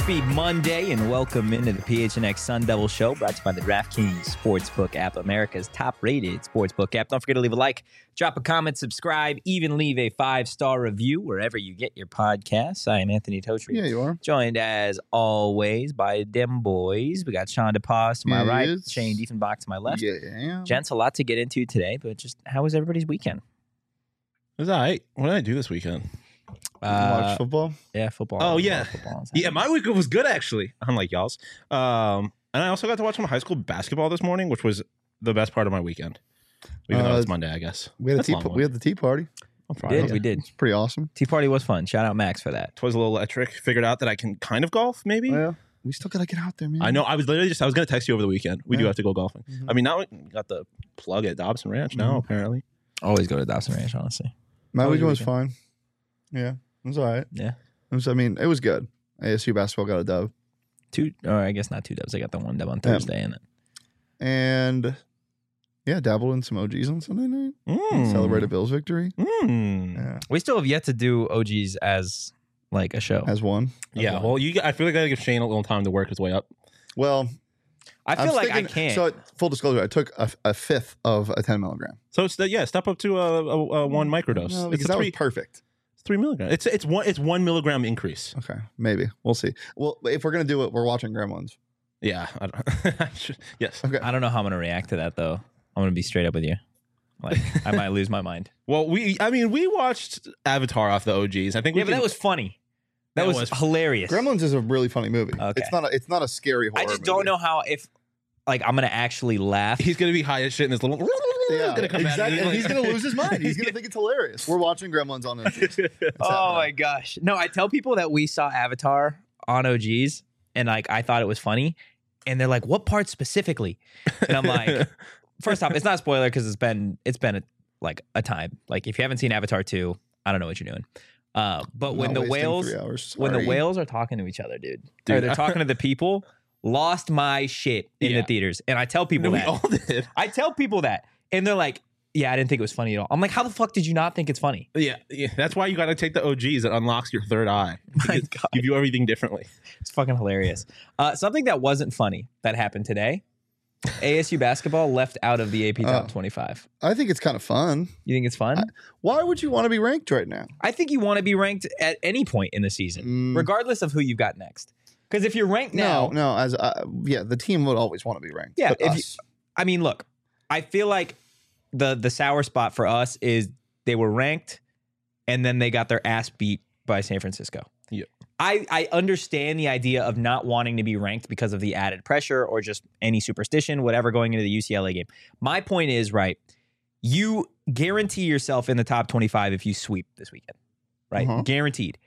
Happy Monday and welcome into the PHNX Sun Devil Show, brought to you by the DraftKings Sportsbook app, America's top-rated sportsbook app. Don't forget to leave a like, drop a comment, subscribe, even leave a 5-star review wherever you get your podcasts. I am Anthony Totri. Yeah, you are. Joined, as always, by them boys. We got Sean DePaz to my right, Shane Diefenbach to my left. Yeah. Gents, a lot to get into today, but just how was everybody's weekend? It was all right. What did I do this weekend? Watch football? Yeah, football. Oh, yeah. Football Yeah, my weekend was good, actually, unlike y'all's. And I also got to watch some high school basketball this morning, which was the best part of my weekend. Even though it's Monday, I guess. We had the tea party. We did. It's pretty awesome. Tea party was fun. Shout out Max for that. It was a little electric. Figured out that I can kind of golf, maybe. Oh, yeah. We still got to get out there, man. I know. I was going to text you over the weekend. We do have to go golfing. Mm-hmm. I mean, now we got the plug at Dobson Ranch now, apparently. Always go to Dawson Ranch, honestly. My weekend was fine. Yeah. It was all right. Yeah. It was good. ASU basketball got a dub. I guess not 2 dubs. I got the 1 dub on Thursday. And yeah, dabbled in some OGs on Sunday night. Celebrated Bill's victory. Yeah. We still have yet to do OGs as like a show. As one. Yeah. Well, I feel like I got to give Shane a little time to work his way up. Well, I feel like I can't. So full disclosure, I took a fifth of a 10 milligram. So it's step up to a 1 microdose. No, because that was perfect. 3 milligrams. It's 1 milligram increase. Okay, maybe we'll see. Well, if we're gonna do it, we're watching Gremlins. Yeah. Yes. Okay. I don't know how I'm gonna react to that though. I'm gonna be straight up with you. Like I might lose my mind. Well, we watched Avatar off the OGs. I think. But that was funny. That was hilarious. Gremlins is a really funny movie. Okay. It's not a scary horror. I just don't know how I'm gonna actually laugh. He's gonna be high as shit in this little. Yeah, gonna come exactly. And he's gonna lose his mind. He's gonna think it's hilarious. We're watching Gremlins on OGs. Oh my gosh! No, I tell people that we saw Avatar on OGs, and I thought it was funny, and they're like, "What part specifically?" And I'm like, first off, it's not a spoiler because it's been a time. Like if you haven't seen Avatar 2, I don't know what you're doing. But when the whales are talking to each other, dude, or they're talking to the people, lost my shit in the theaters. And I tell people that. We all did. I tell people that, and they're like, "Yeah, I didn't think it was funny at all." I'm like, "How the fuck did you not think it's funny?" Yeah. That's why you got to take the OGs. It unlocks your third eye. You view everything differently. It's fucking hilarious. Something that wasn't funny that happened today. ASU basketball left out of the AP Top 25. I think it's kind of fun. You think it's fun? Why would you want to be ranked right now? I think you want to be ranked at any point in the season, regardless of who you've got next. Because if you're ranked now, the team would always want to be ranked. Yeah, look, I feel like the sour spot for us is they were ranked, and then they got their ass beat by San Francisco. Yeah. I understand the idea of not wanting to be ranked because of the added pressure or just any superstition, whatever, going into the UCLA game. My point is, right, you guarantee yourself in the top 25 if you sweep this weekend, right? Guaranteed.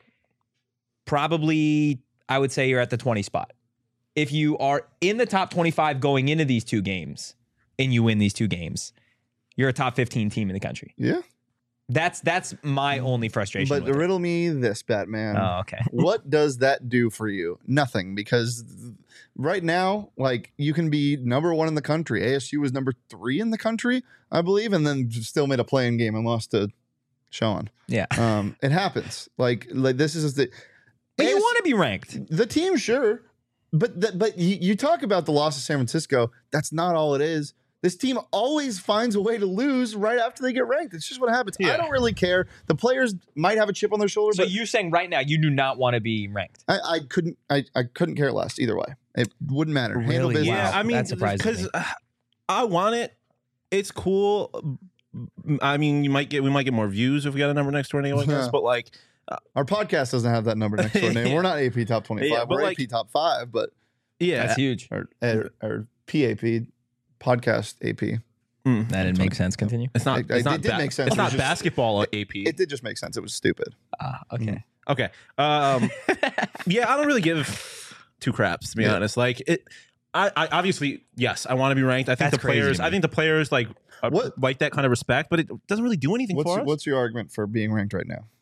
Probably, I would say you're at the 20 spot. If you are in the top 25 going into these 2 games and you win these 2 games, you're a top 15 team in the country. Yeah. That's my only frustration. But riddle me this, Batman. Oh, okay. What does that do for you? Nothing, because right now, you can be number 1 in the country. ASU was number 3 in the country, I believe, and then still made a playing game and lost to Sean. Yeah. It happens. Like this is the. But you want to be ranked. The team, sure, but you talk about the loss of San Francisco. That's not all it is. This team always finds a way to lose right after they get ranked. It's just what happens. Yeah. I don't really care. The players might have a chip on their shoulder. So you're saying right now you do not want to be ranked? I couldn't care less either way. It wouldn't matter. Really? Handle business. Yeah, I mean, that surprises me. Because I want it. It's cool. I mean, we might get more views if we got a number next to our name, I guess. But our podcast doesn't have that number next to our name. We're not AP Top 25. Yeah, we're AP Top 5, but that's huge. Or PAP. Podcast AP. That didn't make sense. Continue. It's not. It did make sense. It's not basketball AP. It did just make sense. It was stupid. Okay. Okay. Yeah, I don't really give 2 craps to be honest. I obviously, yes, I want to be ranked. I think the players like that kind of respect, but it doesn't really do anything for us. What's your argument for being ranked right now?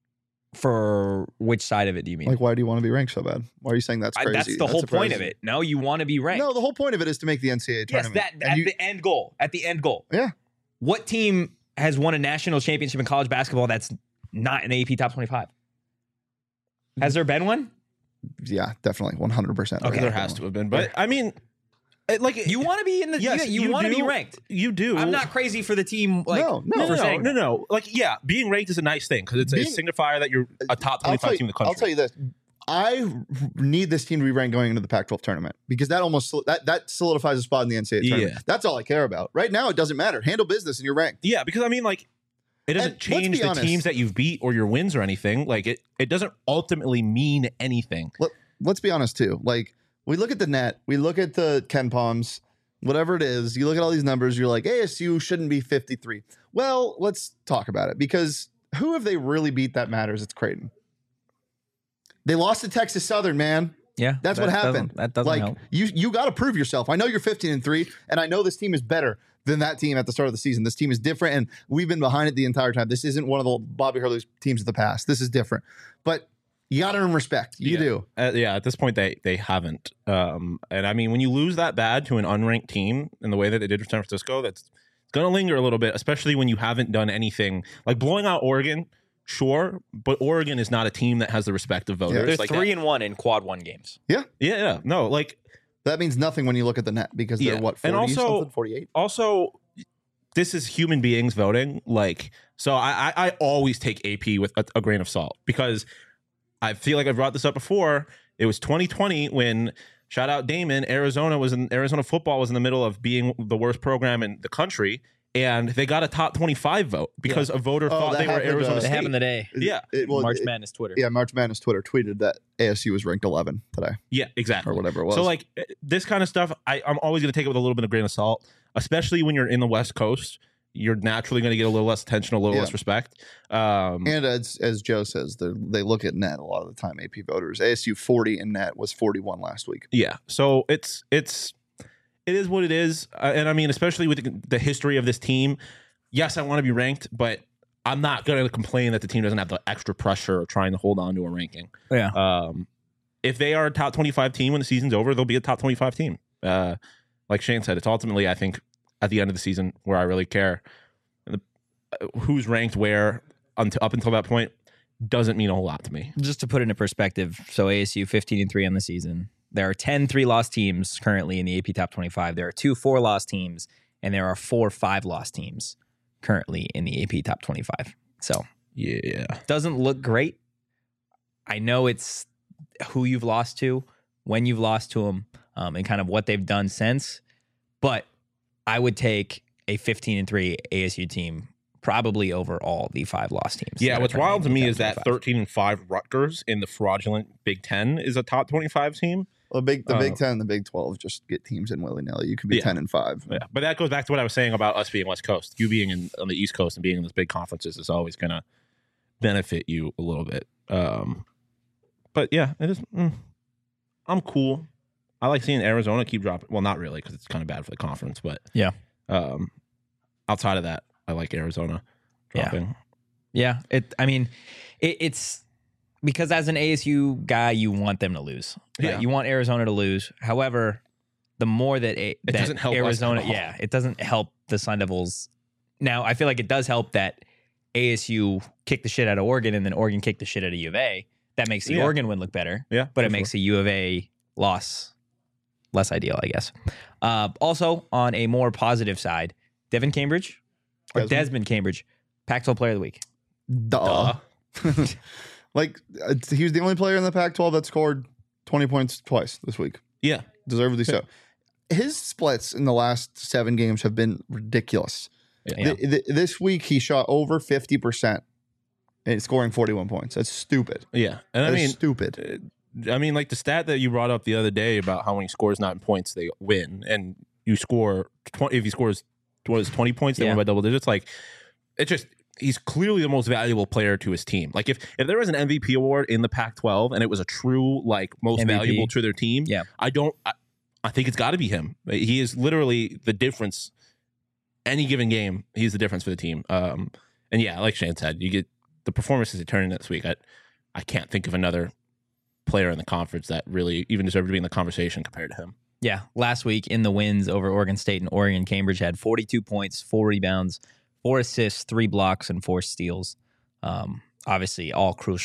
For which side of it do you mean? Why do you want to be ranked so bad? Why are you saying that's crazy? That's the whole point of it. No, you want to be ranked. No, the whole point of it is to make the NCAA tournament. Yes, the end goal. At the end goal. Yeah. What team has won a national championship in college basketball that's not an AP Top 25? Has there been one? Yeah, definitely 100%. Okay, there has to have been, but I mean, like you want to be in the you want to be ranked. You do. I'm not crazy for the team. Like, no. Like, yeah, being ranked is a nice thing because it's a signifier that you're a top 25 team in the country. I'll tell you this. I need this team to be ranked going into the Pac-12 tournament because that almost that solidifies a spot in the NCAA tournament. That's all I care about. Right now, it doesn't matter. Handle business and you're ranked. Yeah, because I mean, like, it doesn't change the teams that you've beat or your wins or anything. Like, it doesn't ultimately mean anything. Let's be honest too. Like, we look at the net, we look at the Ken Palms, whatever it is. You look at all these numbers. You're like, ASU shouldn't be 53. Well, let's talk about it because who have they really beat that matters? It's Creighton. They lost to Texas Southern, man. Yeah, that's what happened. That doesn't help. You got to prove yourself. I know you're 15-3, and I know this team is better than that team at the start of the season. This team is different, and we've been behind it the entire time. This isn't one of the Bobby Hurley's teams of the past. This is different, but you got to earn respect. You do. At this point, they haven't. And I mean, when you lose that bad to an unranked team in the way that they did for San Francisco, that's going to linger a little bit, especially when you haven't done anything like blowing out Oregon. Sure, but Oregon is not a team that has the respect of voters. They're 3-1 in quad 1 games. Yeah. No, like that means nothing when you look at the net because they're what 40 and also 48. Also, this is human beings voting. Like, so I always take AP with a grain of salt because I feel like I've brought this up before. It was 2020 when shout out Damon, Arizona football was in the middle of being the worst program in the country. And they got a top 25 vote because a voter thought they were Arizona State. That happened today. March Madness Twitter. Yeah, March Madness Twitter tweeted that ASU was ranked 11 today. Yeah, exactly. Or whatever it was. So, like, this kind of stuff, I'm always going to take it with a little bit of grain of salt, especially when you're in the West Coast. You're naturally going to get a little less attention, a little less respect. And as Joe says, they look at net a lot of the time, AP voters. ASU 40 in net was 41 last week. Yeah, so it is what it is. And I mean, especially with the history of this team, yes, I want to be ranked, but I'm not going to complain that the team doesn't have the extra pressure of trying to hold on to a ranking. Yeah. If they are a top 25 team when the season's over, they'll be a top 25 team. Like Shane said, it's ultimately, I think, at the end of the season where I really care. Who's ranked where up until that point doesn't mean a whole lot to me. Just to put it into perspective, so ASU 15-3 on the season. There are 10 3-loss teams currently in the AP Top 25. There are 2 4-loss teams, and there are 4 5-loss teams currently in the AP Top 25. So, yeah, doesn't look great. I know it's who you've lost to, when you've lost to them, and kind of what they've done since. But I would take a 15-3 ASU team probably over all the 5-loss teams. Yeah, what's wild to me is that 13-5 Rutgers in the fraudulent Big Ten is a top 25 team. Well, the Big Ten and the Big 12 just get teams in willy-nilly. You could be 10-5. Yeah, but that goes back to what I was saying about us being West Coast. You being on the East Coast and being in those big conferences is always going to benefit you a little bit. But yeah, it is. I'm cool. I like seeing Arizona keep dropping. Well, not really because it's kind of bad for the conference. But yeah, outside of that, I like Arizona dropping. Yeah. It's because as an ASU guy, you want them to lose. Right? You want Arizona to lose. However, the more that doesn't help Arizona, it doesn't help the Sun Devils. Now, I feel like it does help that ASU kicked the shit out of Oregon and then Oregon kicked the shit out of U of A. That makes the Oregon win look better. Yeah, but it makes the U of A loss less ideal, I guess. Also, on a more positive side, Desmond Cambridge, Pac-12 Player of the Week. Duh. Like, he was the only player in the Pac-12 that scored 20 points twice this week. Yeah. Deservedly so. His splits in the last 7 games have been ridiculous. Yeah. This week, he shot over 50% and scoring 41 points. That's stupid. Yeah. And I mean, stupid. I mean, like the stat that you brought up the other day about how when he scores 9 points, they win. And you score 20, if he scores 20 points, they win by double digits. Like, it just... He's clearly the most valuable player to his team. Like if there was an MVP award in the Pac-12 and it was a true like most valuable to their team, I think it's got to be him. He is literally the difference. Any given game, he's the difference for the team. And yeah, like Shane said, you get the performances he turned in this week. I can't think of another player in the conference that really even deserved to be in the conversation compared to him. Yeah, last week in the wins over Oregon State and Oregon, Cambridge had 42 points, 4 rebounds, 4 assists, 3 blocks, and 4 steals. Obviously, all crucial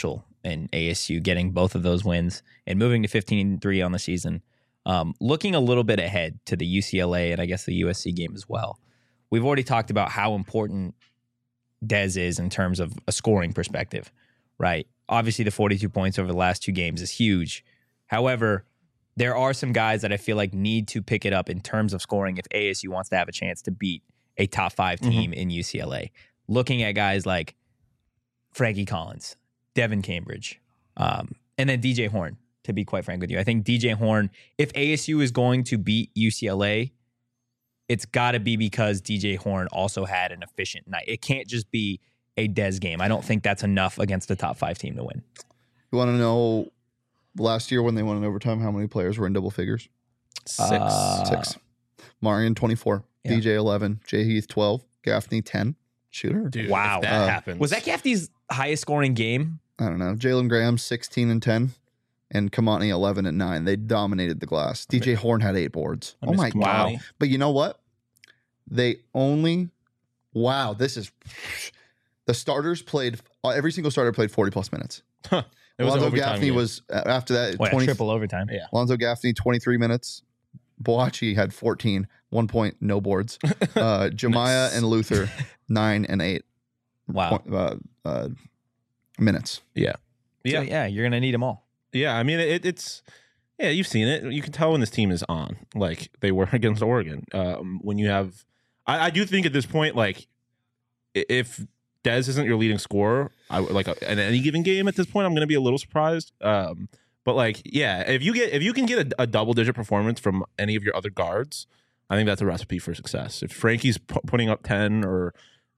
and ASU getting both of those wins and moving to 15-3 on the season. Looking a little bit ahead to the UCLA and I guess the USC game as well. We've already talked about how important Dez is in terms of a scoring perspective, right? Obviously, the 42 points over the last 2 games is huge. However, there are some guys that I feel like need to pick it up in terms of scoring if ASU wants to have a chance to beat a top 5 team in UCLA. Looking at guys like Frankie Collins, Devin Cambridge, and then DJ Horn, to be quite frank with you. I think DJ Horn, if ASU is going to beat UCLA, it's got to be because DJ Horn also had an efficient night. It can't just be a Dez game. I don't think that's enough against the top 5 team to win. You want to know last year when they won in overtime, how many players were in double figures? 6. Marion, 24. Yeah. DJ, 11. Jay Heath, 12. Gaffney, 10. Shooter. Dude, wow. That happens. Was that Gaffney's highest scoring game? I don't know. Jalen Graham, 16 and 10. And Kamani, 11 and 9. They dominated the glass. DJ Horn had 8 boards. Oh my God. But you know what? They only, this is, the starters played, every single starter played 40 plus minutes. Huh. Alonzo Gaffney was, after that, 20, triple overtime. Yeah. Alonzo Gaffney, 23 minutes. Boachi had 14, 1 point, no boards. Jemiah and Luther, 9 and 8. Wow. Minutes. Yeah. So, yeah, you're going to need them all. Yeah, I mean, it's yeah, you've seen it. You can tell when this team is on, like they were against Oregon. When you have, I do think at this point, like if Dez isn't your leading scorer, in any given game at this point, I'm going to be a little surprised. But like, yeah, if you can get a double digit performance from any of your other guards, I think that's a recipe for success. If Frankie's putting up 10 or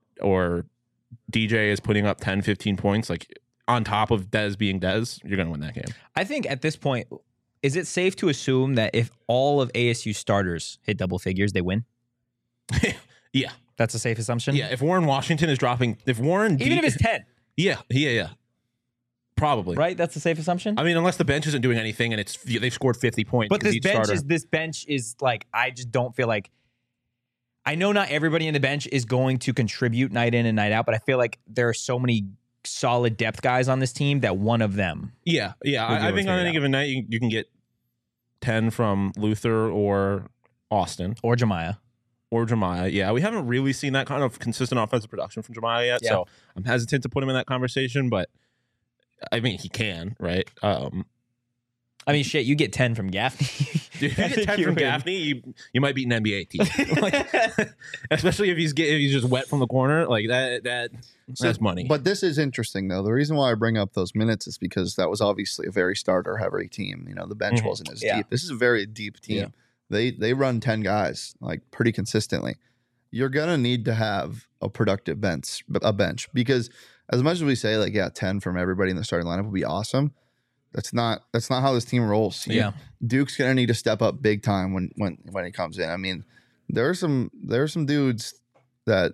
DJ is putting up 10, 15 points, like on top of Dez being Dez, you're going to win that game. I think at this point, is it safe to assume that if all of ASU starters hit double figures, they win? Yeah. That's a safe assumption? Yeah. If Warren Washington is dropping, if it's 10. Yeah. Probably. Right? That's a safe assumption? I mean, unless the bench isn't doing anything and they've scored 50 points. But this bench is like, I just don't feel like, I know not everybody in the bench is going to contribute night in and night out, but I feel like there are so many solid depth guys on this team that one of them. Yeah. I think on any given night you can get 10 from Luther or Austin or Jemiah. Yeah, we haven't really seen that kind of consistent offensive production from Jemiah yet, so I'm hesitant to put him in that conversation. But I mean, he can, right? I mean, shit, you get 10 from Gaffney. Dude, if you get 10 from Gaffney, you might beat an NBA team. Like, especially if he's just wet from the corner, like that's money. But this is interesting, though. The reason why I bring up those minutes is because that was obviously a very starter-heavy team. You know, the bench wasn't as deep. This is a very deep team. Yeah. They run 10 guys, like, pretty consistently. You're going to need to have a productive bench because as much as we say, like, 10 from everybody in the starting lineup would be awesome. That's not how this team rolls. Yeah. Duke's gonna need to step up big time when he comes in. I mean, there are some dudes that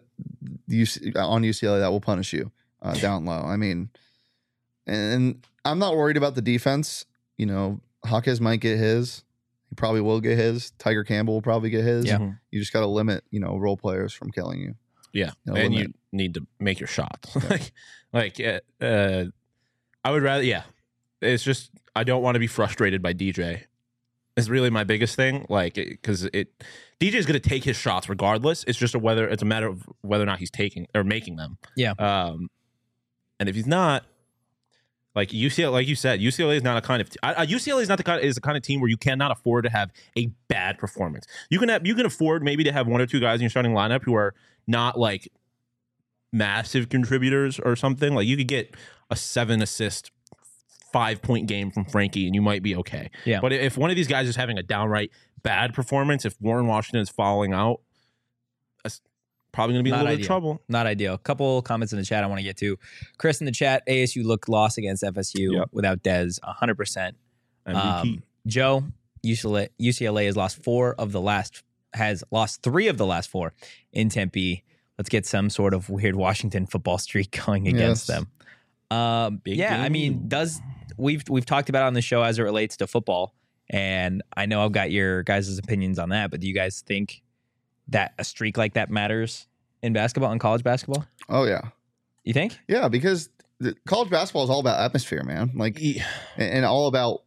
on UCLA that will punish you down low. I mean, and I'm not worried about the defense. You know, Hawkes might get his. He probably will get his. Tiger Campbell will probably get his. Yeah. You just got to limit, role players from killing you. Yeah, and you need to make your shots. Yeah. I would rather. Yeah. It's just I don't want to be frustrated by DJ. It's really my biggest thing, like because DJ is going to take his shots regardless. It's just it's a matter of whether or not he's taking or making them. Yeah. And if he's not, like UCLA, like you said, UCLA is not a kind of UCLA is not the kind of team where you cannot afford to have a bad performance. You can afford maybe to have 1 or 2 guys in your starting lineup who are not like massive contributors or something. Like you could get a 7-assist. 5-point game from Frankie and you might be okay. Yeah. But if one of these guys is having a downright bad performance, if Warren Washington is falling out, that's probably going to be a little bit of trouble. Not ideal. A couple comments in the chat I want to get to. Chris in the chat, ASU looked lost against FSU without Dez, 100%. Joe, UCLA has lost 3 of the last 4 in Tempe. Let's get some sort of weird Washington football streak going against them. I mean, we've talked about it on the show as it relates to football, and I know I've got your guys' opinions on that, but do you guys think that a streak like that matters in basketball, in college basketball? Oh, yeah. You think? Yeah, because college basketball is all about atmosphere, man. Like, and all about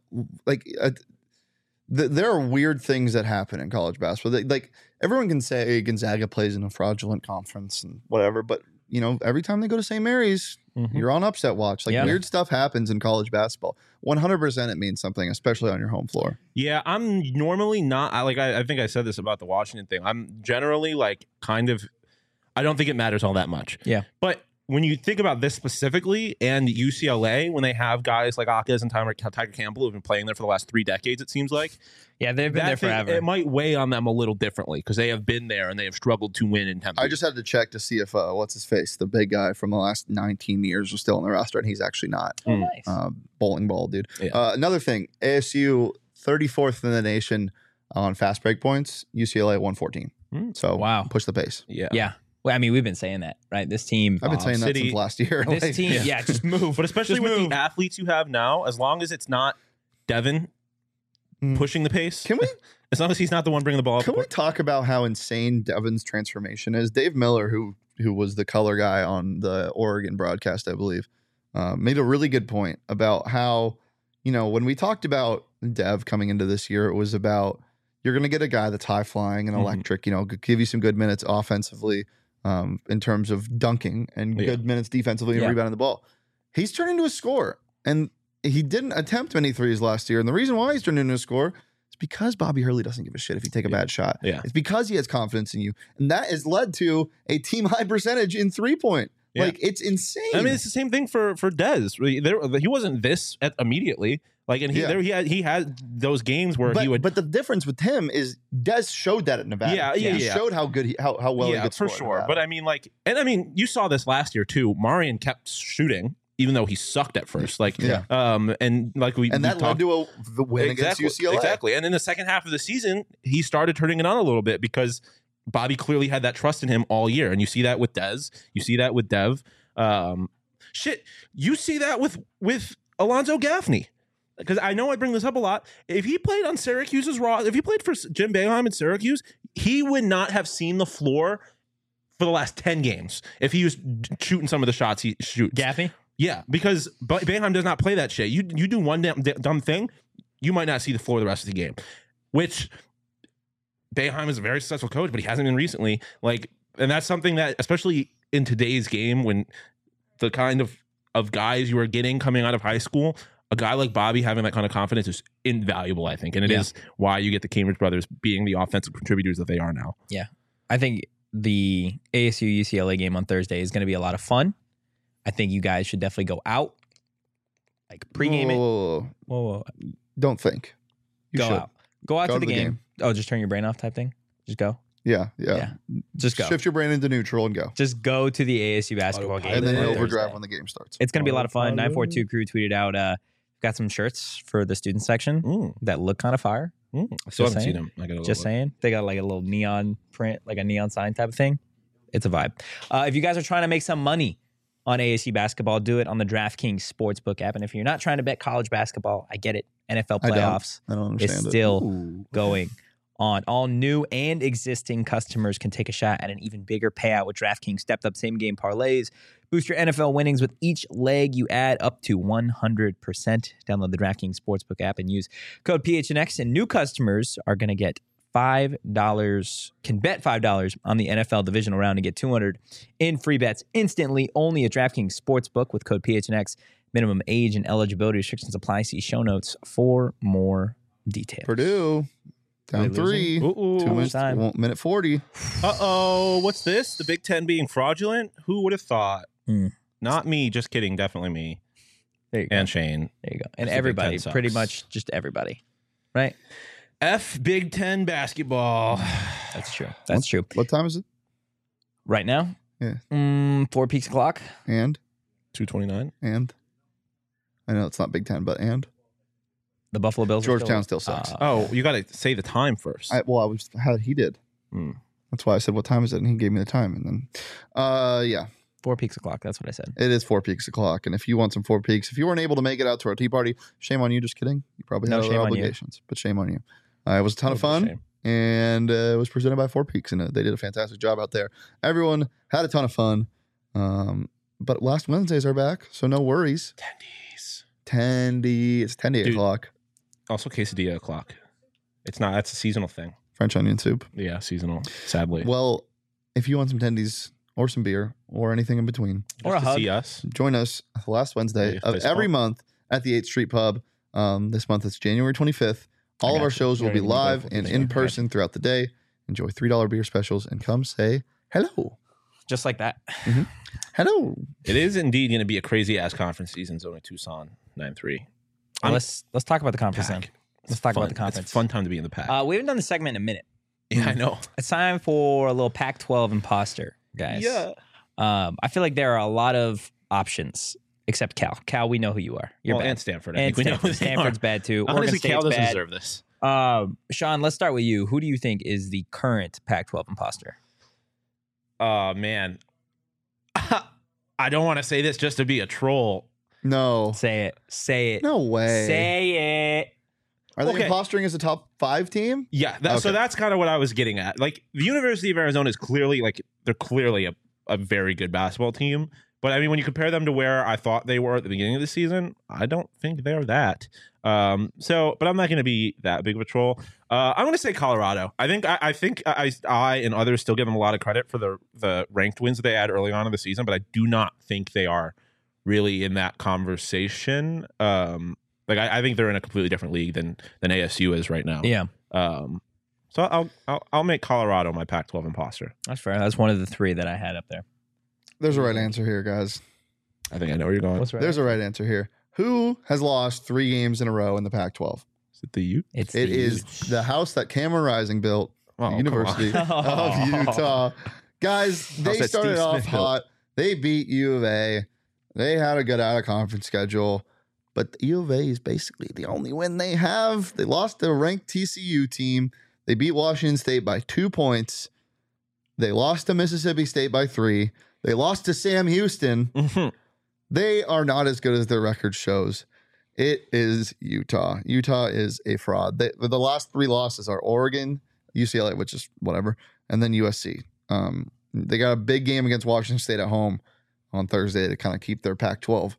there are weird things that happen in college basketball. Like everyone can say Gonzaga plays in a fraudulent conference and whatever, but every time they go to St. Mary's, you're on upset watch. Like weird stuff happens in college basketball. 100% it means something, especially on your home floor. Yeah, I'm normally not. I think I said this about the Washington thing. I'm generally like kind of. I don't think it matters all that much. Yeah, but when you think about this specifically and UCLA, when they have guys like Akez and Tiger Campbell who've been playing there for the last 3 decades, it seems like. Yeah, they've been there forever. It might weigh on them a little differently because they have been there and they have struggled to win in Tempe. I just had to check to see if what's his face, the big guy from the last 19 years, was still on the roster, and he's actually not. Oh, nice. Bowling ball, dude. Yeah. Another thing, ASU 34th in the nation on fast break points. UCLA 114. So wow, push the pace. Yeah. Well, I mean, we've been saying that, right? This team. I've been saying that since last year. This team, just move. But especially with the athletes you have now, as long as it's not Devin pushing the pace. Can we? As long as he's not the one bringing the ball up. Can we talk about how insane Devin's transformation is? Dave Miller, who was the color guy on the Oregon broadcast, I believe, made a really good point about how, when we talked about Dev coming into this year, it was about you're going to get a guy that's high flying and electric, give you some good minutes offensively in terms of dunking and good minutes defensively and rebounding the ball. He's turned into a scorer, and he didn't attempt many threes last year. And the reason why he's turned into a scorer is because Bobby Hurley doesn't give a shit if you take a bad shot. Yeah. It's because he has confidence in you. And that has led to a team high percentage in 3-point. Yeah. Like, it's insane. I mean, it's the same thing for Dez. He wasn't this he had those games where he would. But the difference with him is Dez showed that at Nevada. He showed how good how well he could score. For sure. But I mean, you saw this last year too. Marion kept shooting, even though he sucked at first. And that led to the win against UCLA. Exactly. And in the second half of the season, he started turning it on a little bit because Bobby clearly had that trust in him all year. And you see that with Dez. You see that with Dev. You see that with Alonzo Gaffney. Because I know I bring this up a lot. If he played on Syracuse's if he played for Jim Boeheim in Syracuse, he would not have seen the floor for the last 10 games if he was shooting some of the shots he shoots. Gaffney? Yeah, because Boeheim does not play that shit. You do one dumb thing, you might not see the floor the rest of the game. Which Boeheim is a very successful coach, but he hasn't been recently. And that's something that, especially in today's game, when the kind of guys you are getting coming out of high school, a guy like Bobby having that kind of confidence is invaluable, I think. And it is why you get the Cambridge brothers being the offensive contributors that they are now. Yeah. I think the ASU UCLA game on Thursday is going to be a lot of fun. I think you guys should definitely go out, pregame it. Whoa. Don't think. Go out. Go out to the game. Oh, just turn your brain off type thing? Just go? Yeah. Just go. Shift your brain into neutral and go. Just go to the ASU basketball game. And then overdrive when the game starts. It's going to be a lot of fun. 942 Crew tweeted out, got some shirts for the student section that look kind of fire. I still haven't seen them. Just saying. They got like a little neon print, like a neon sign type of thing. It's a vibe. If you guys are trying to make some money on ASU basketball, do it on the DraftKings Sportsbook app. And if you're not trying to bet college basketball, I get it. NFL playoffs I don't understand is still going on. All new and existing customers can take a shot at an even bigger payout with DraftKings stepped up same game parlays. Boost your NFL winnings with each leg you add up to 100%. Download the DraftKings Sportsbook app and use code PHNX. And new customers are going to get $5, can bet $5 on the NFL divisional round and get $200 in free bets instantly only at DraftKings Sportsbook with code PHNX. Minimum age and eligibility restrictions apply. See show notes for more details. Purdue down 3. 2 minutes, minute 40. Uh-oh. What's this? The Big Ten being fraudulent? Who would have thought? Not me. Just kidding. Definitely me. There you go. And Shane. There you go. And everybody. Pretty much just everybody. Right? F Big Ten basketball. That's true. That's true. What time is it? Right now? Yeah. 4 peaks o'clock. And? 2:29. And? I know it's not Big Ten, but and? The Buffalo Bills. Georgetown still sucks. You got to say the time first. He did. That's why I said, what time is it? And he gave me the time. And then, 4 peaks o'clock. That's what I said. It is 4 peaks o'clock. And if you want some 4 peaks, if you weren't able to make it out to our tea party, shame on you. Just kidding. You probably have other obligations, but shame on you. It was a ton of fun. And it was presented by 4 Peaks. And they did a fantastic job out there. Everyone had a ton of fun. But last Wednesdays are back, so no worries. Tendy. It's 10 o'clock. Also quesadilla o'clock. It's not. That's a seasonal thing. French onion soup. Yeah, seasonal. Sadly. Well, if you want some tendies or some beer or anything in between, or a hug, see us. Join us the last Wednesday of every month at the 8th Street Pub. This month it's January 25th. All of our shows will be live and in person throughout the day. Enjoy $3 beer specials and come say hello. Just like that. Mm-hmm. Hello. It is indeed going to be a crazy ass conference season. Zona Tucson 9-3. Let's talk about the conference then. Let's talk about the conference. It's a fun time to be in the pack. We haven't done the segment in a minute. Yeah, I know. It's time for a little Pac-12 imposter, guys. Yeah. I feel like there are a lot of options, except Cal. Cal, we know who you are. You're bad. And Stanford. I think we know Stanford's bad too. Honestly, Cal doesn't bad. deserve this. Sean, let's start with you. Who do you think is the current Pac-12 imposter? Oh, man. I don't want to say this just to be a troll. No. Say it. Say it. No way. Say it. Are they impostering as a top 5 team? Yeah. So that's kind of what I was getting at. Like, the University of Arizona is clearly, they're clearly a very good basketball team. But, I mean, when you compare them to where I thought they were at the beginning of the season, I don't think they're that. But I'm not going to be that big of a troll. I'm going to say Colorado. I think I and others still give them a lot of credit for the ranked wins that they had early on in the season, but I do not think they are really in that conversation. I think they're in a completely different league than ASU is right now. Yeah. So I'll make Colorado my Pac-12 imposter. That's fair. That's one of the 3 that I had up there. There's a right answer here, guys. I think I know where you're going. What's right? There's a right answer here. Who has lost 3 games in a row in the Pac-12? Is it the Ute? It is the house that Cameron Rising built, the University of Utah. Guys, they started off hot. They beat U of A. They had a good out-of-conference schedule. But the U of A is basically the only win they have. They lost to a ranked TCU team. They beat Washington State by 2 points. They lost to Mississippi State by 3. They lost to Sam Houston. Mm-hmm. They are not as good as their record shows. It is Utah. Utah is a fraud. The last 3 losses are Oregon, UCLA, which is whatever, and then USC. They got a big game against Washington State at home on Thursday to kind of keep their Pac-12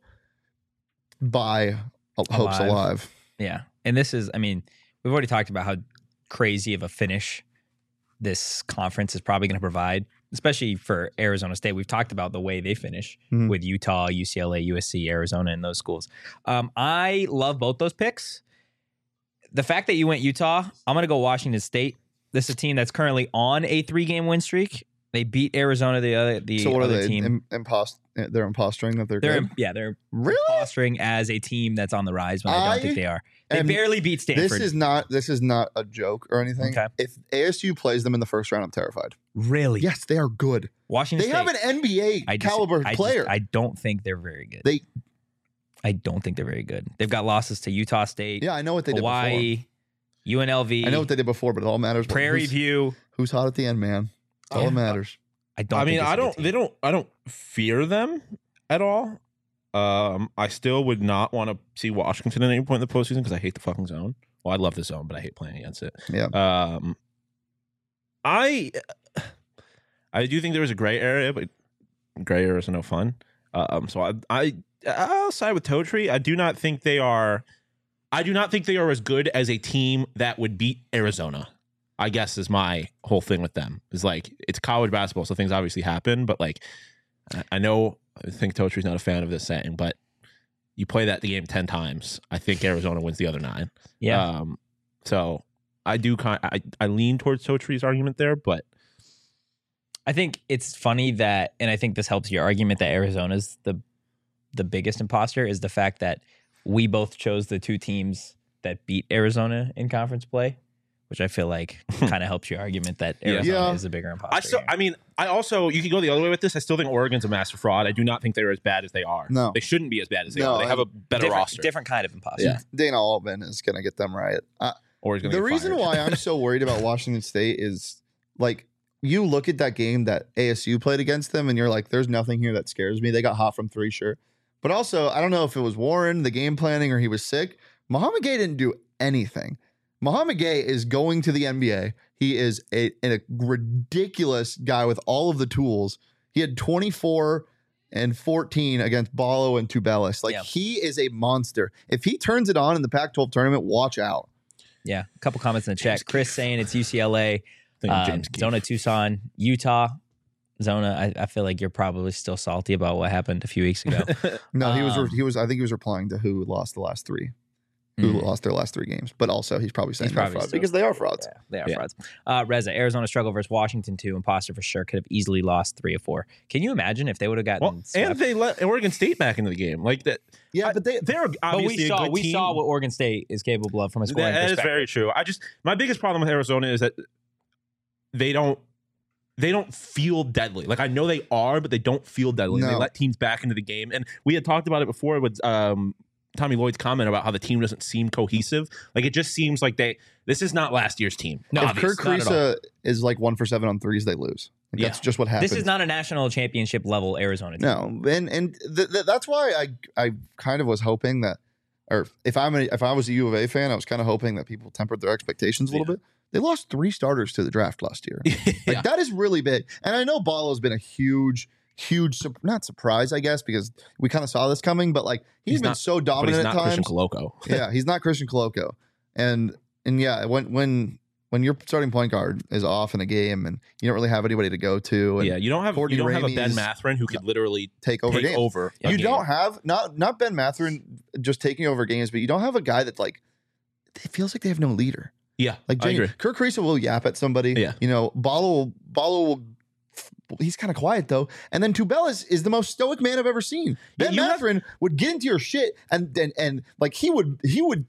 hopes alive. Yeah. And this is, we've already talked about how crazy of a finish this conference is probably going to provide, especially for Arizona State. We've talked about the way they finish with Utah, UCLA, USC, Arizona, and those schools. I love both those picks. The fact that you went Utah, I'm going to go Washington State. This is a team that's currently on a 3-game win streak. They beat Arizona, the other team. So what are they? They're impostoring that they're good? They're really impostering as a team that's on the rise when I don't think they are. They barely beat Stanford. This is not a joke or anything. Okay. If ASU plays them in the first round, I'm terrified. Really? Yes, they are good. Washington State. They have an NBA caliber player. I don't think they're very good. I don't think they're very good. They've got losses to Utah State. Yeah, I know what they Hawaii, did before. UNLV. I know what they did before, but it all matters. Prairie View. Who's hot at the end, man? That's all that matters. I don't fear them at all. I still would not want to see Washington at any point in the postseason because I hate the fucking zone. Well, I love the zone, but I hate playing against it. Yeah. I do think there was a gray area, but gray areas are no fun. So I'll side with Totri. I do not think they are as good as a team that would beat Arizona, I guess, is my whole thing with them. Is it's college basketball, so things obviously happen, but I think Totri's not a fan of this saying, but you play that game 10 times. I think Arizona wins the other 9. Yeah. So I do I lean towards Totri's argument there, but I think it's funny that, and I think this helps your argument that Arizona's the biggest imposter, is the fact that we both chose the 2 teams that beat Arizona in conference play, which I feel like kind of helps your argument that Arizona is a bigger imposter. You could go the other way with this. I still think Oregon's a master fraud. I do not think they're as bad as they are. No. They shouldn't be as bad as they are. They have a better roster. Different kind of imposter. Yeah. Dana Altman is going to get them right. The reason why I'm so worried about Washington State is, you look at that game that ASU played against them and you're like, there's nothing here that scares me. They got hot from 3, sure. But also, I don't know if it was Warren, the game planning, or he was sick. Mohamed Gay didn't do anything. Mohamed Gay is going to the NBA. He is a ridiculous guy with all of the tools. He had 24 and 14 against Ballo and Tubelis. Like, he is a monster. If he turns it on in the Pac-12 tournament, watch out. Yeah, a couple comments in the chat. Chris saying it's UCLA, Zona Tucson, Utah. Zona, I feel like you're probably still salty about what happened a few weeks ago. No, he was. I think he was replying to who lost the last three. Who lost their last 3 games. But also, he's probably saying they're frauds because they are frauds. Yeah, they are frauds. Reza, Arizona struggle versus Washington 2. Imposter for sure. Could have easily lost 3 of 4. Can you imagine if they would have gotten and they let Oregon State back into the game like that? Yeah, but they're obviously we saw what Oregon State is capable of from a scoring perspective. That is very true. My biggest problem with Arizona is that they don't feel deadly. Like, I know they are, but they don't feel deadly. No. They let teams back into the game. And we had talked about it before with Tommy Lloyd's comment about how the team doesn't seem cohesive. Like, it just seems like this is not last year's team. No, if Kirk Kriisa is like 1 for 7 on threes, they lose. Like, that's just what happens. This is not a national championship level Arizona team. No, and that's why I kind of was hoping that, or if I was a U of A fan, I was kind of hoping that people tempered their expectations a little bit. They lost 3 starters to the draft last year. Like, that is really big. And I know Ballo's been a huge, not surprise, I guess, because we kind of saw this coming, but like he's been so dominant at times. Christian Coloco. Yeah, he's not Christian Coloco. And yeah, when your starting point guard is off in a game and you don't really have anybody to go to, and you don't have a Ben Mathurin who could literally take over games. You don't have not Ben Mathurin just taking over games, but you don't have a guy that, like, it feels like they have no leader. Yeah, like I agree. Kirk Kriisa will yap at somebody. Yeah, you know, Ballo will. He's kind of quiet though, and then Tubelis is the most stoic man I've ever seen. Ben Mathurin would get into your shit, and like he would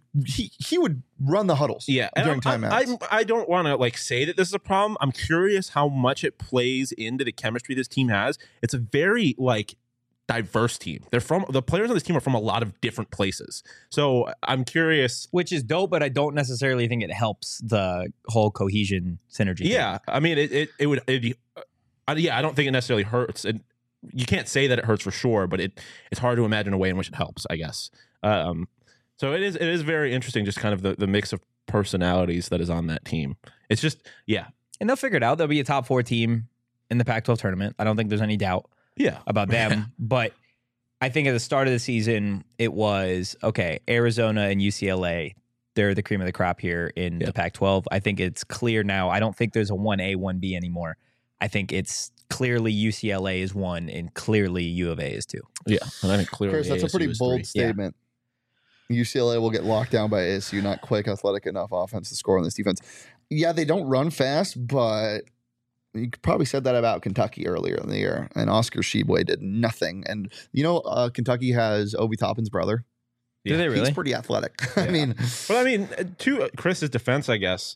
run the huddles. Yeah, during timeouts. I don't want to like say that this is a problem. I'm curious how much it plays into the chemistry this team has. It's a very like diverse team. The players on this team are from a lot of different places. So I'm curious, which is dope, but I don't necessarily think it helps the whole cohesion synergy. Yeah, thing. I mean it'd be. I don't think it necessarily hurts. And you can't say that it hurts for sure, but it's hard to imagine a way in which it helps, I guess. So it is very interesting, just kind of the mix of personalities that is on that team. It's just, and they'll figure it out. They'll be a top 4 team in the Pac-12 tournament. I don't think there's any doubt about them. But I think at the start of the season, it was, okay, Arizona and UCLA, they're the cream of the crop here in the Pac-12. I think it's clear now. I don't think there's a 1A, 1B anymore. I think it's clearly UCLA is 1 and clearly U of A is 2. Yeah, and I think clearly Chris, that's ASU a pretty bold statement. Yeah. UCLA will get locked down by ASU, not quick, athletic enough offense to score on this defense. Yeah, they don't run fast, but you probably said that about Kentucky earlier in the year, and Oscar Tshiebwe did nothing. And you know, Kentucky has Obi Toppin's brother. Do they really? He's pretty athletic. Yeah. I mean, to Chris's defense, I guess,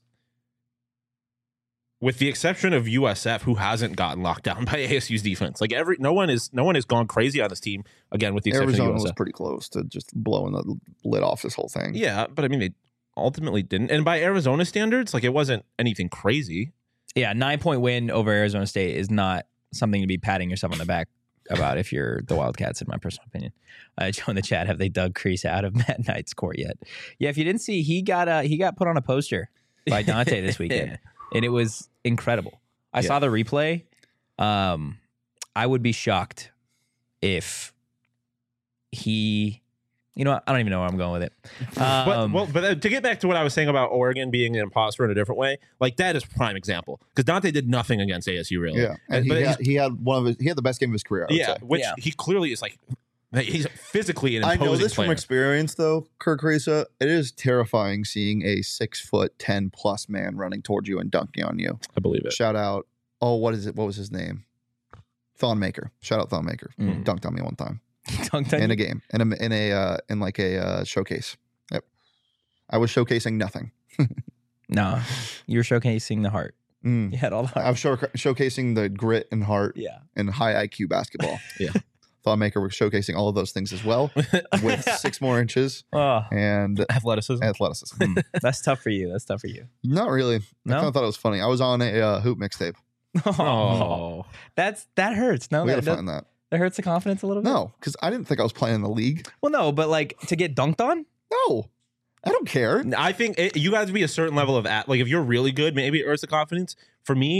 with the exception of USF, who hasn't gotten locked down by ASU's defense, like no one has gone crazy on this team. Again, with the exception Arizona of USF. Was pretty close to just blowing the lid off this whole thing. Yeah, but I mean, they ultimately didn't. And by Arizona standards, like, it wasn't anything crazy. Yeah, 9-point win over Arizona State is not something to be patting yourself on the back about if you're the Wildcats, in my personal opinion. Joe in the chat, have they dug Kriisa out of Matt Knight's court yet? Yeah, if you didn't see, he got put on a poster by Dante this weekend, and it was incredible. I saw the replay. I would be shocked if he, you know, I don't even know where I'm going with it. But to get back to what I was saying about Oregon being an imposter in a different way, like, that is prime example, because Dante did nothing against ASU really. Yeah, and he had the best game of his career. He clearly is like. He's physically an imposing I know this player. From experience, though, Kirk Kriisa. It is terrifying seeing a 6'10" man running towards you and dunking on you. I believe it. Shout out. Oh, what is it? What was his name? Thonmaker. Shout out Thonmaker. Dunked on me one time. Dunked on in a game in like a showcase. Yep. I was showcasing nothing. No, you were showcasing the heart. You had all the heart. I was showcasing the grit and heart. And high IQ basketball. Thonmaker was showcasing all of those things as well with 6 more inches and athleticism. That's tough for you. Not really. No? I kind of thought it was funny. I was on a hoop mixtape. Oh, that hurts. No, we gotta find that. That hurts the confidence a little bit. No, because I didn't think I was playing in the league. Well, no, but like to get dunked on. No, I don't care. I think you guys be a certain level of like, if you're really good, maybe it hurts the confidence. For me,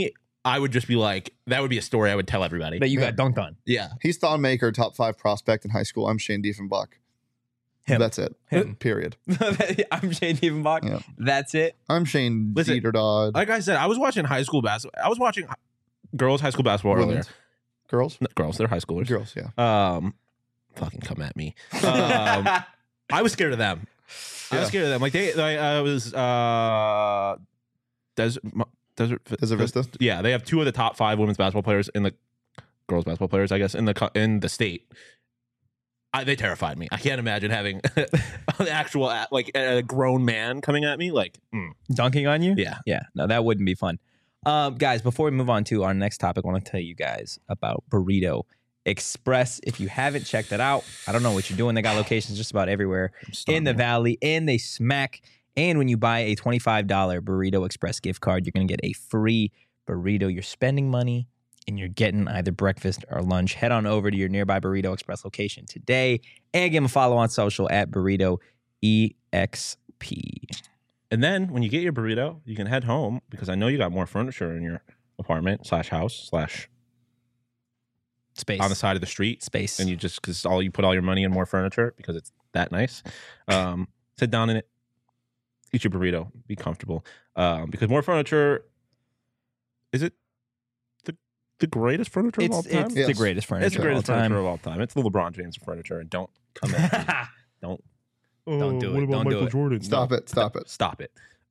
I would just be like, that would be a story I would tell everybody. That you got dunked on. Yeah. He's Thon Maker, top 5 prospect in high school. I'm Shane Diefenbach. Him. That's it. Him. Period. I'm Shane Diefenbach. Yeah. That's it. I'm Shane Listen, Dieterdod. Like I said, I was watching high school basketball. I was watching girls' high school basketball earlier. Women's. Girls? No, girls, they're high schoolers. Girls, yeah. Fucking come at me. I was scared of them. I was scared of them. Like I was Desert Vista. Yeah, they have 2 of the top 5 women's basketball players in the girls basketball players, I guess, in the state. They terrified me. I can't imagine having an actual like a grown man coming at me like dunking on you. Yeah. No, that wouldn't be fun. Guys, before we move on to our next topic, I want to tell you guys about Burrito Express. If you haven't checked it out, I don't know what you're doing. They got locations just about everywhere in the Valley, and they smack. And when you buy a $25 Burrito Express gift card, you're going to get a free burrito. You're spending money and you're getting either breakfast or lunch. Head on over to your nearby Burrito Express location today and give them a follow on social at Burrito EXP. And then when you get your burrito, you can head home because I know you got more furniture in your apartment / house / space on the side of the street space. And you just, because you put all your money in more furniture because it's that nice. Sit down in it, eat your burrito, be comfortable. Because more furniture, is it the greatest furniture of all time? It's the greatest furniture. It's the greatest furniture of all time. It's the LeBron James furniture, and don't come at me. Don't do it. Don't do it. Jordan? Stop it. Stop it.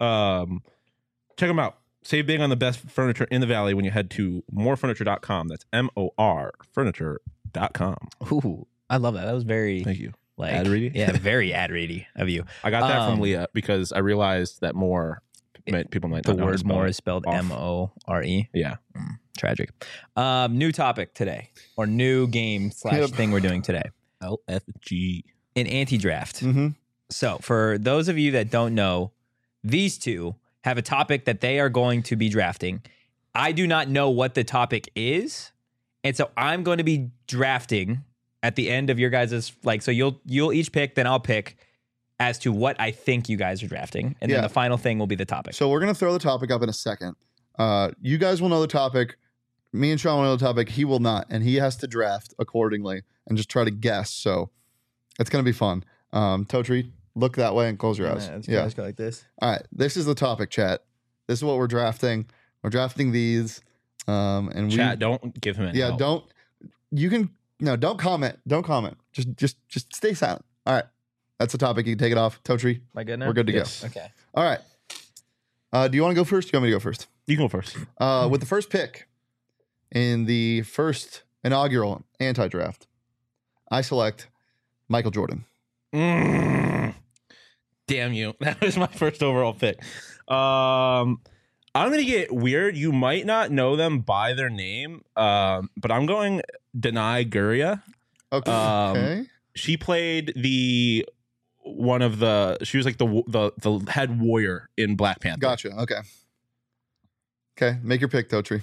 Check them out. Save big on the best furniture in the Valley when you head to morefurniture.com. That's MOR furniture.com. Ooh, I love that. That was very Thank you. Like ad ready. Yeah, very ad ready of you. I got that from Leah because I realized that people might the not know word more it. is spelled Off. MORE. Yeah. Tragic. New topic today, or new game / thing we're doing today. LFG. An anti-draft. Mm-hmm. So for those of you that don't know, these two have a topic that they are going to be drafting. I do not know what the topic is. And so I'm going to be drafting at the end of your guys' so you'll each pick, then I'll pick as to what I think you guys are drafting. And then the final thing will be the topic. So we're going to throw the topic up in a second. You guys will know the topic. Me and Sean will know the topic. He will not. And he has to draft accordingly and just try to guess. So it's going to be fun. Totri, look that way and close your eyes. Yeah. Go like this. All right. This is the topic, chat. This is what we're drafting. We're drafting these. And Chat, don't give him any help. don't comment. Don't comment. Just stay silent. All right. That's the topic. You can take it off. Totri, Am I good now? we're good to Yes. go. Okay. All right. Do you want to go first? Do you want me to go first? You can go first. With the first pick in the first inaugural anti-draft, I select Michael Jordan. Damn you. That was my first overall pick. I'm going to get weird. You might not know them by their name, but I'm going Denai Guria. Okay. She played she was like the head warrior in Black Panther. Gotcha. Okay. Make your pick, Totri.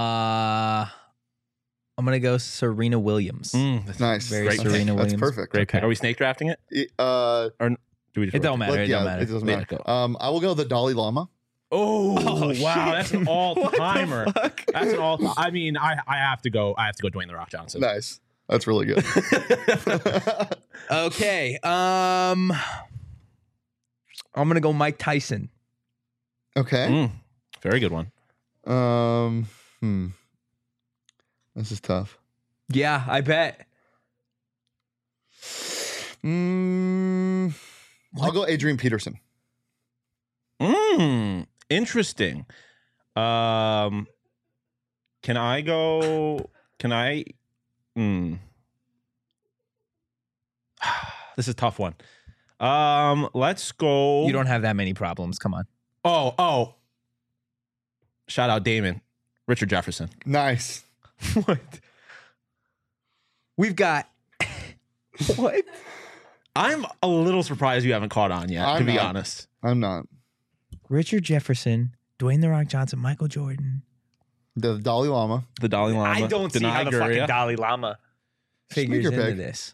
I'm gonna go Serena Williams. That's Nice. Very great Serena pick. Williams. That's perfect. Great pick. Are we snake drafting it? Or Do we just It don't matter. It don't It matter. doesn't Yeah, matter. go. I will go the Dalai Lama. Oh, wow, shit. that's an all-timer. What the fuck? That's an all. I mean, I have to go. Dwayne the Rock Johnson. Nice. That's really good. Okay. I'm gonna go Mike Tyson. Okay. Very good one. This is tough. Yeah, I bet. I'll go Adrian Peterson. Interesting. Can I go? Can I? This is a tough one. Let's go. You don't have that many problems. Come on. Oh. Shout out Damon. Richard Jefferson. Nice. What? We've got what? I'm a little surprised you haven't caught on yet, to be honest. I'm not. Richard Jefferson, Dwayne the Rock Johnson, Michael Jordan. The Dalai Lama. The Dalai Lama. I don't see how the fucking Dalai Lama figures your into pick. this.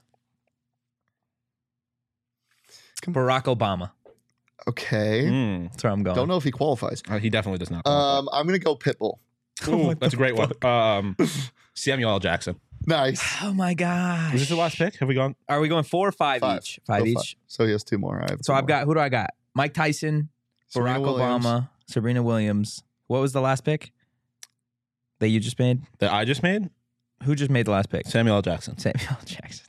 Barack Obama. Okay. That's where I'm going. Don't know if he qualifies. He definitely does not. I'm gonna go Pitbull. Ooh, that's a great one. Samuel L. Jackson. Nice. Oh my gosh. Is this the last pick? Have we gone? Are we going 4 or 5 each? 5 Go each. So he has 2 more. I've got, who do I got? Mike Tyson, Serena Barack Williams. Obama, Serena Williams. What was the last pick that you just made? That I just made? Who just made the last pick? Samuel L. Jackson. Samuel L. Jackson.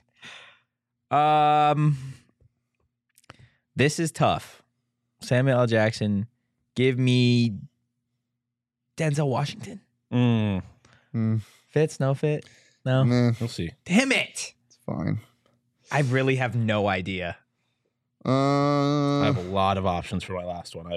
This is tough. Samuel L. Jackson. Give me Denzel Washington. Fits? No fit? No? Nah, We'll see. Damn it. it's fine. I really have no idea. I have a lot of options for my last one.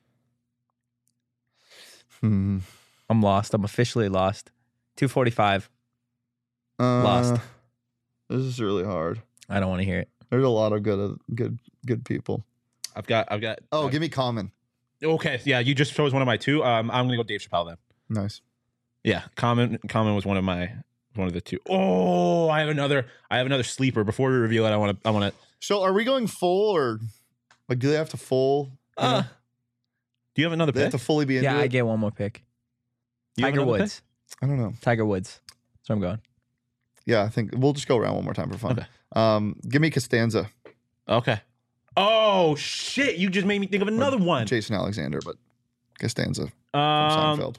I'm lost. I'm officially lost. 245. Lost. This is really hard. I don't want to hear it. There's a lot of good people. I've got. Oh, give me Common. Okay, yeah, you just chose one of my 2. I'm gonna go Dave Chappelle then. Nice. Yeah, Common was one of the 2. Oh, I have another sleeper. Before we reveal it, I want to. So, are we going full or like? Do they have to full? You know? Do you have another They pick? have to fully be into Yeah, it? I get one more pick. You have Tiger another Woods. I don't know. Tiger Woods. That's where I'm going. Yeah, I think we'll just go around one more time for fun. Okay. Give me Costanza. Okay. Oh shit! You just made me think of another one. Jason Alexander, but Costanza from Um, Seinfeld.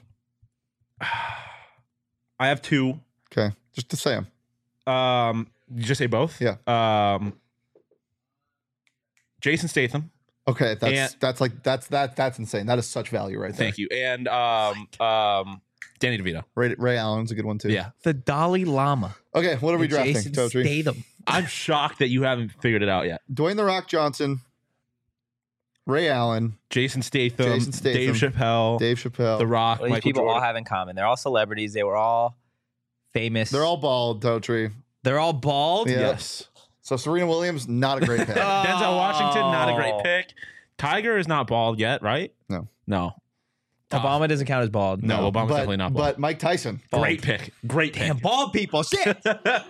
I have 2. Okay, just to say them. Did you just say both? Yeah. Jason Statham. Okay, that's insane. That is such value right there. Thank you. And Danny DeVito. Ray Allen's a good one too. Yeah. The Dalai Lama. Okay, what are we drafting? Jason Totri? Statham. I'm shocked that you haven't figured it out yet. Dwayne the Rock Johnson, Ray Allen, Jason Statham, Dave Dave Chappelle, Chappelle. The Rock, What these Michael people all Jordan. have in common. They're all celebrities. They were all famous. They're all bald, Totri. They're all bald. Yeah. Yes. So Serena Williams, not a great pick. Denzel Washington, not a great pick. Tiger is not bald yet, right? No. Tough. Obama doesn't count as bald. No, Obama's but, definitely not bald. But Mike Tyson. Great pick. Great pick. Damn, bald people. Shit.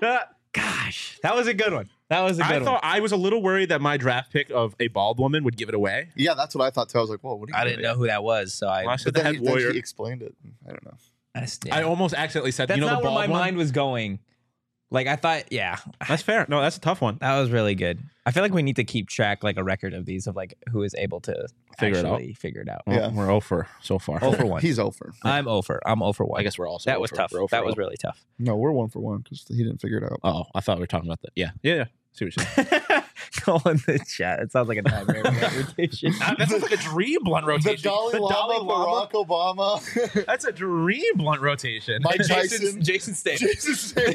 Gosh, that was a good one. That was a good I one. thought I was a little worried that my draft pick of a bald woman would give it away. Yeah, that's what I thought too. I was like, whoa, what are you I doing? didn't know who that was, so I. Well, I said But the head warrior. he explained it. I don't know. I almost accidentally said, That's you know, not the where bald my one? mind was going. Like I thought, yeah, That's fair. No, that's a tough one. that was really good. I feel like we need to keep track, like a record of these, of like who is able to Figure it out. actually figure it out. Well, Yeah. we're over so far. 0 for 1. He's over. I'm over. I'm 0 for 1. I guess we're also that was over. tough. We're over That was over. really tough. No, we're 1 for 1 because he didn't figure it out. Oh, I thought we were talking about that. Yeah. Yeah. See what you're saying. Go in the chat. It sounds like a nightmare rotation. That sounds like a dream blunt The rotation. Dalai Lama, Barack Obama, That's a dream blunt rotation. Mike Tyson, Jason Statham. Jason Statham.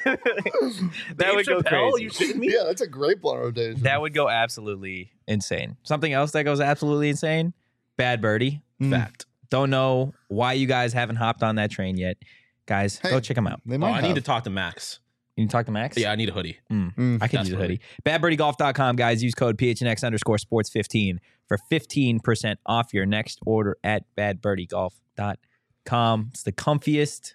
That would go Chappelle, crazy. you shitting me? Yeah, that's a great blunt rotation. That would go absolutely insane. Something else that goes absolutely insane. Bad Birdie. Fact. Don't know why you guys haven't hopped on that train yet. Guys, Hey, go check them out. They Oh, might I need have. to talk to Max. You can talk to Max? Yeah, I need a hoodie. I could use a Desperately. hoodie. BadBirdieGolf.com, guys. Use code PHNX_sports15 for 15% off your next order at BadBirdieGolf.com. It's the comfiest,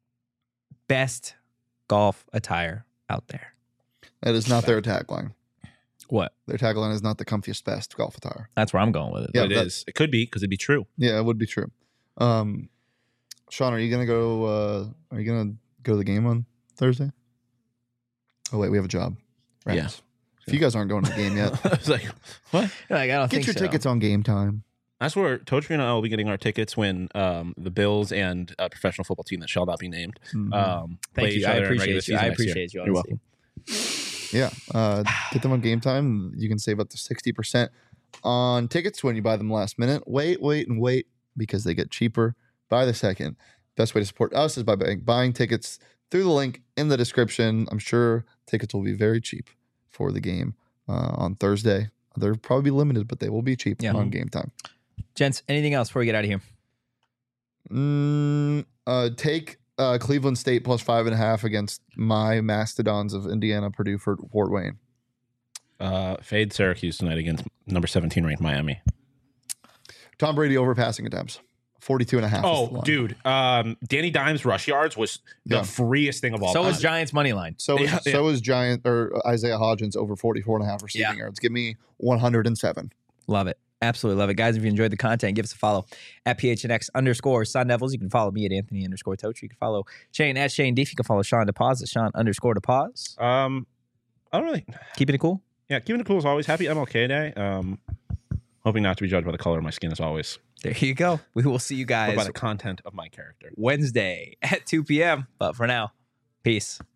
best golf attire out there. That is not their tagline. What? Their tagline is not the comfiest, best golf attire. That's where I'm going with it. Yeah, But it is. It could be because it'd be true. Yeah, it would be true. Sean, are you gonna go? Are you gonna go to the game on Thursday? Oh wait, we have a job. Right. Yeah. If you guys aren't going to the game yet, I was like, what? Like, I don't get think your so. tickets on Game Time. That's where Totri and I will be getting our tickets when the Bills and a professional football team that shall not be named Thank play you. each I other in regular appreciate you. season I next year. appreciate you. You're honestly. welcome. Yeah, get them on Game Time. You can save up to 60% on tickets when you buy them last minute. Wait, because they get cheaper by the second. Best way to support us is by buying tickets through the link in the description. I'm sure tickets will be very cheap for the game on Thursday. They'll probably be limited, but they will be cheap Yeah. on Game Time. Gents, anything else before we get out of here? Take Cleveland State plus 5.5 against my Mastodons of Indiana, Purdue, Fort Wayne. Fade Syracuse tonight against number 17 ranked Miami. Tom Brady overpassing attempts. 42.5. is the Oh, line. dude. Danny Dimes' rush yards was the Yeah. freest thing of all So time. was Giants money line. So Yeah, so is Giant or Isaiah Hodgins over 44.5 receiving Yeah. yards. Give me 107. Love it. Absolutely love it. Guys, if you enjoyed the content, give us a follow at PHNX_Sun Devils. You can follow me at Anthony_Tochi. You can follow Shane at Shane Deef. You can follow Sean DePause at Sean_DePause. I don't really. Keeping it cool? Yeah, keeping it cool as always. Happy MLK Day. Hoping not to be judged by the color of my skin as always. There you go. We will see you guys but by the content of my character. Wednesday at 2 p.m. But for now, peace.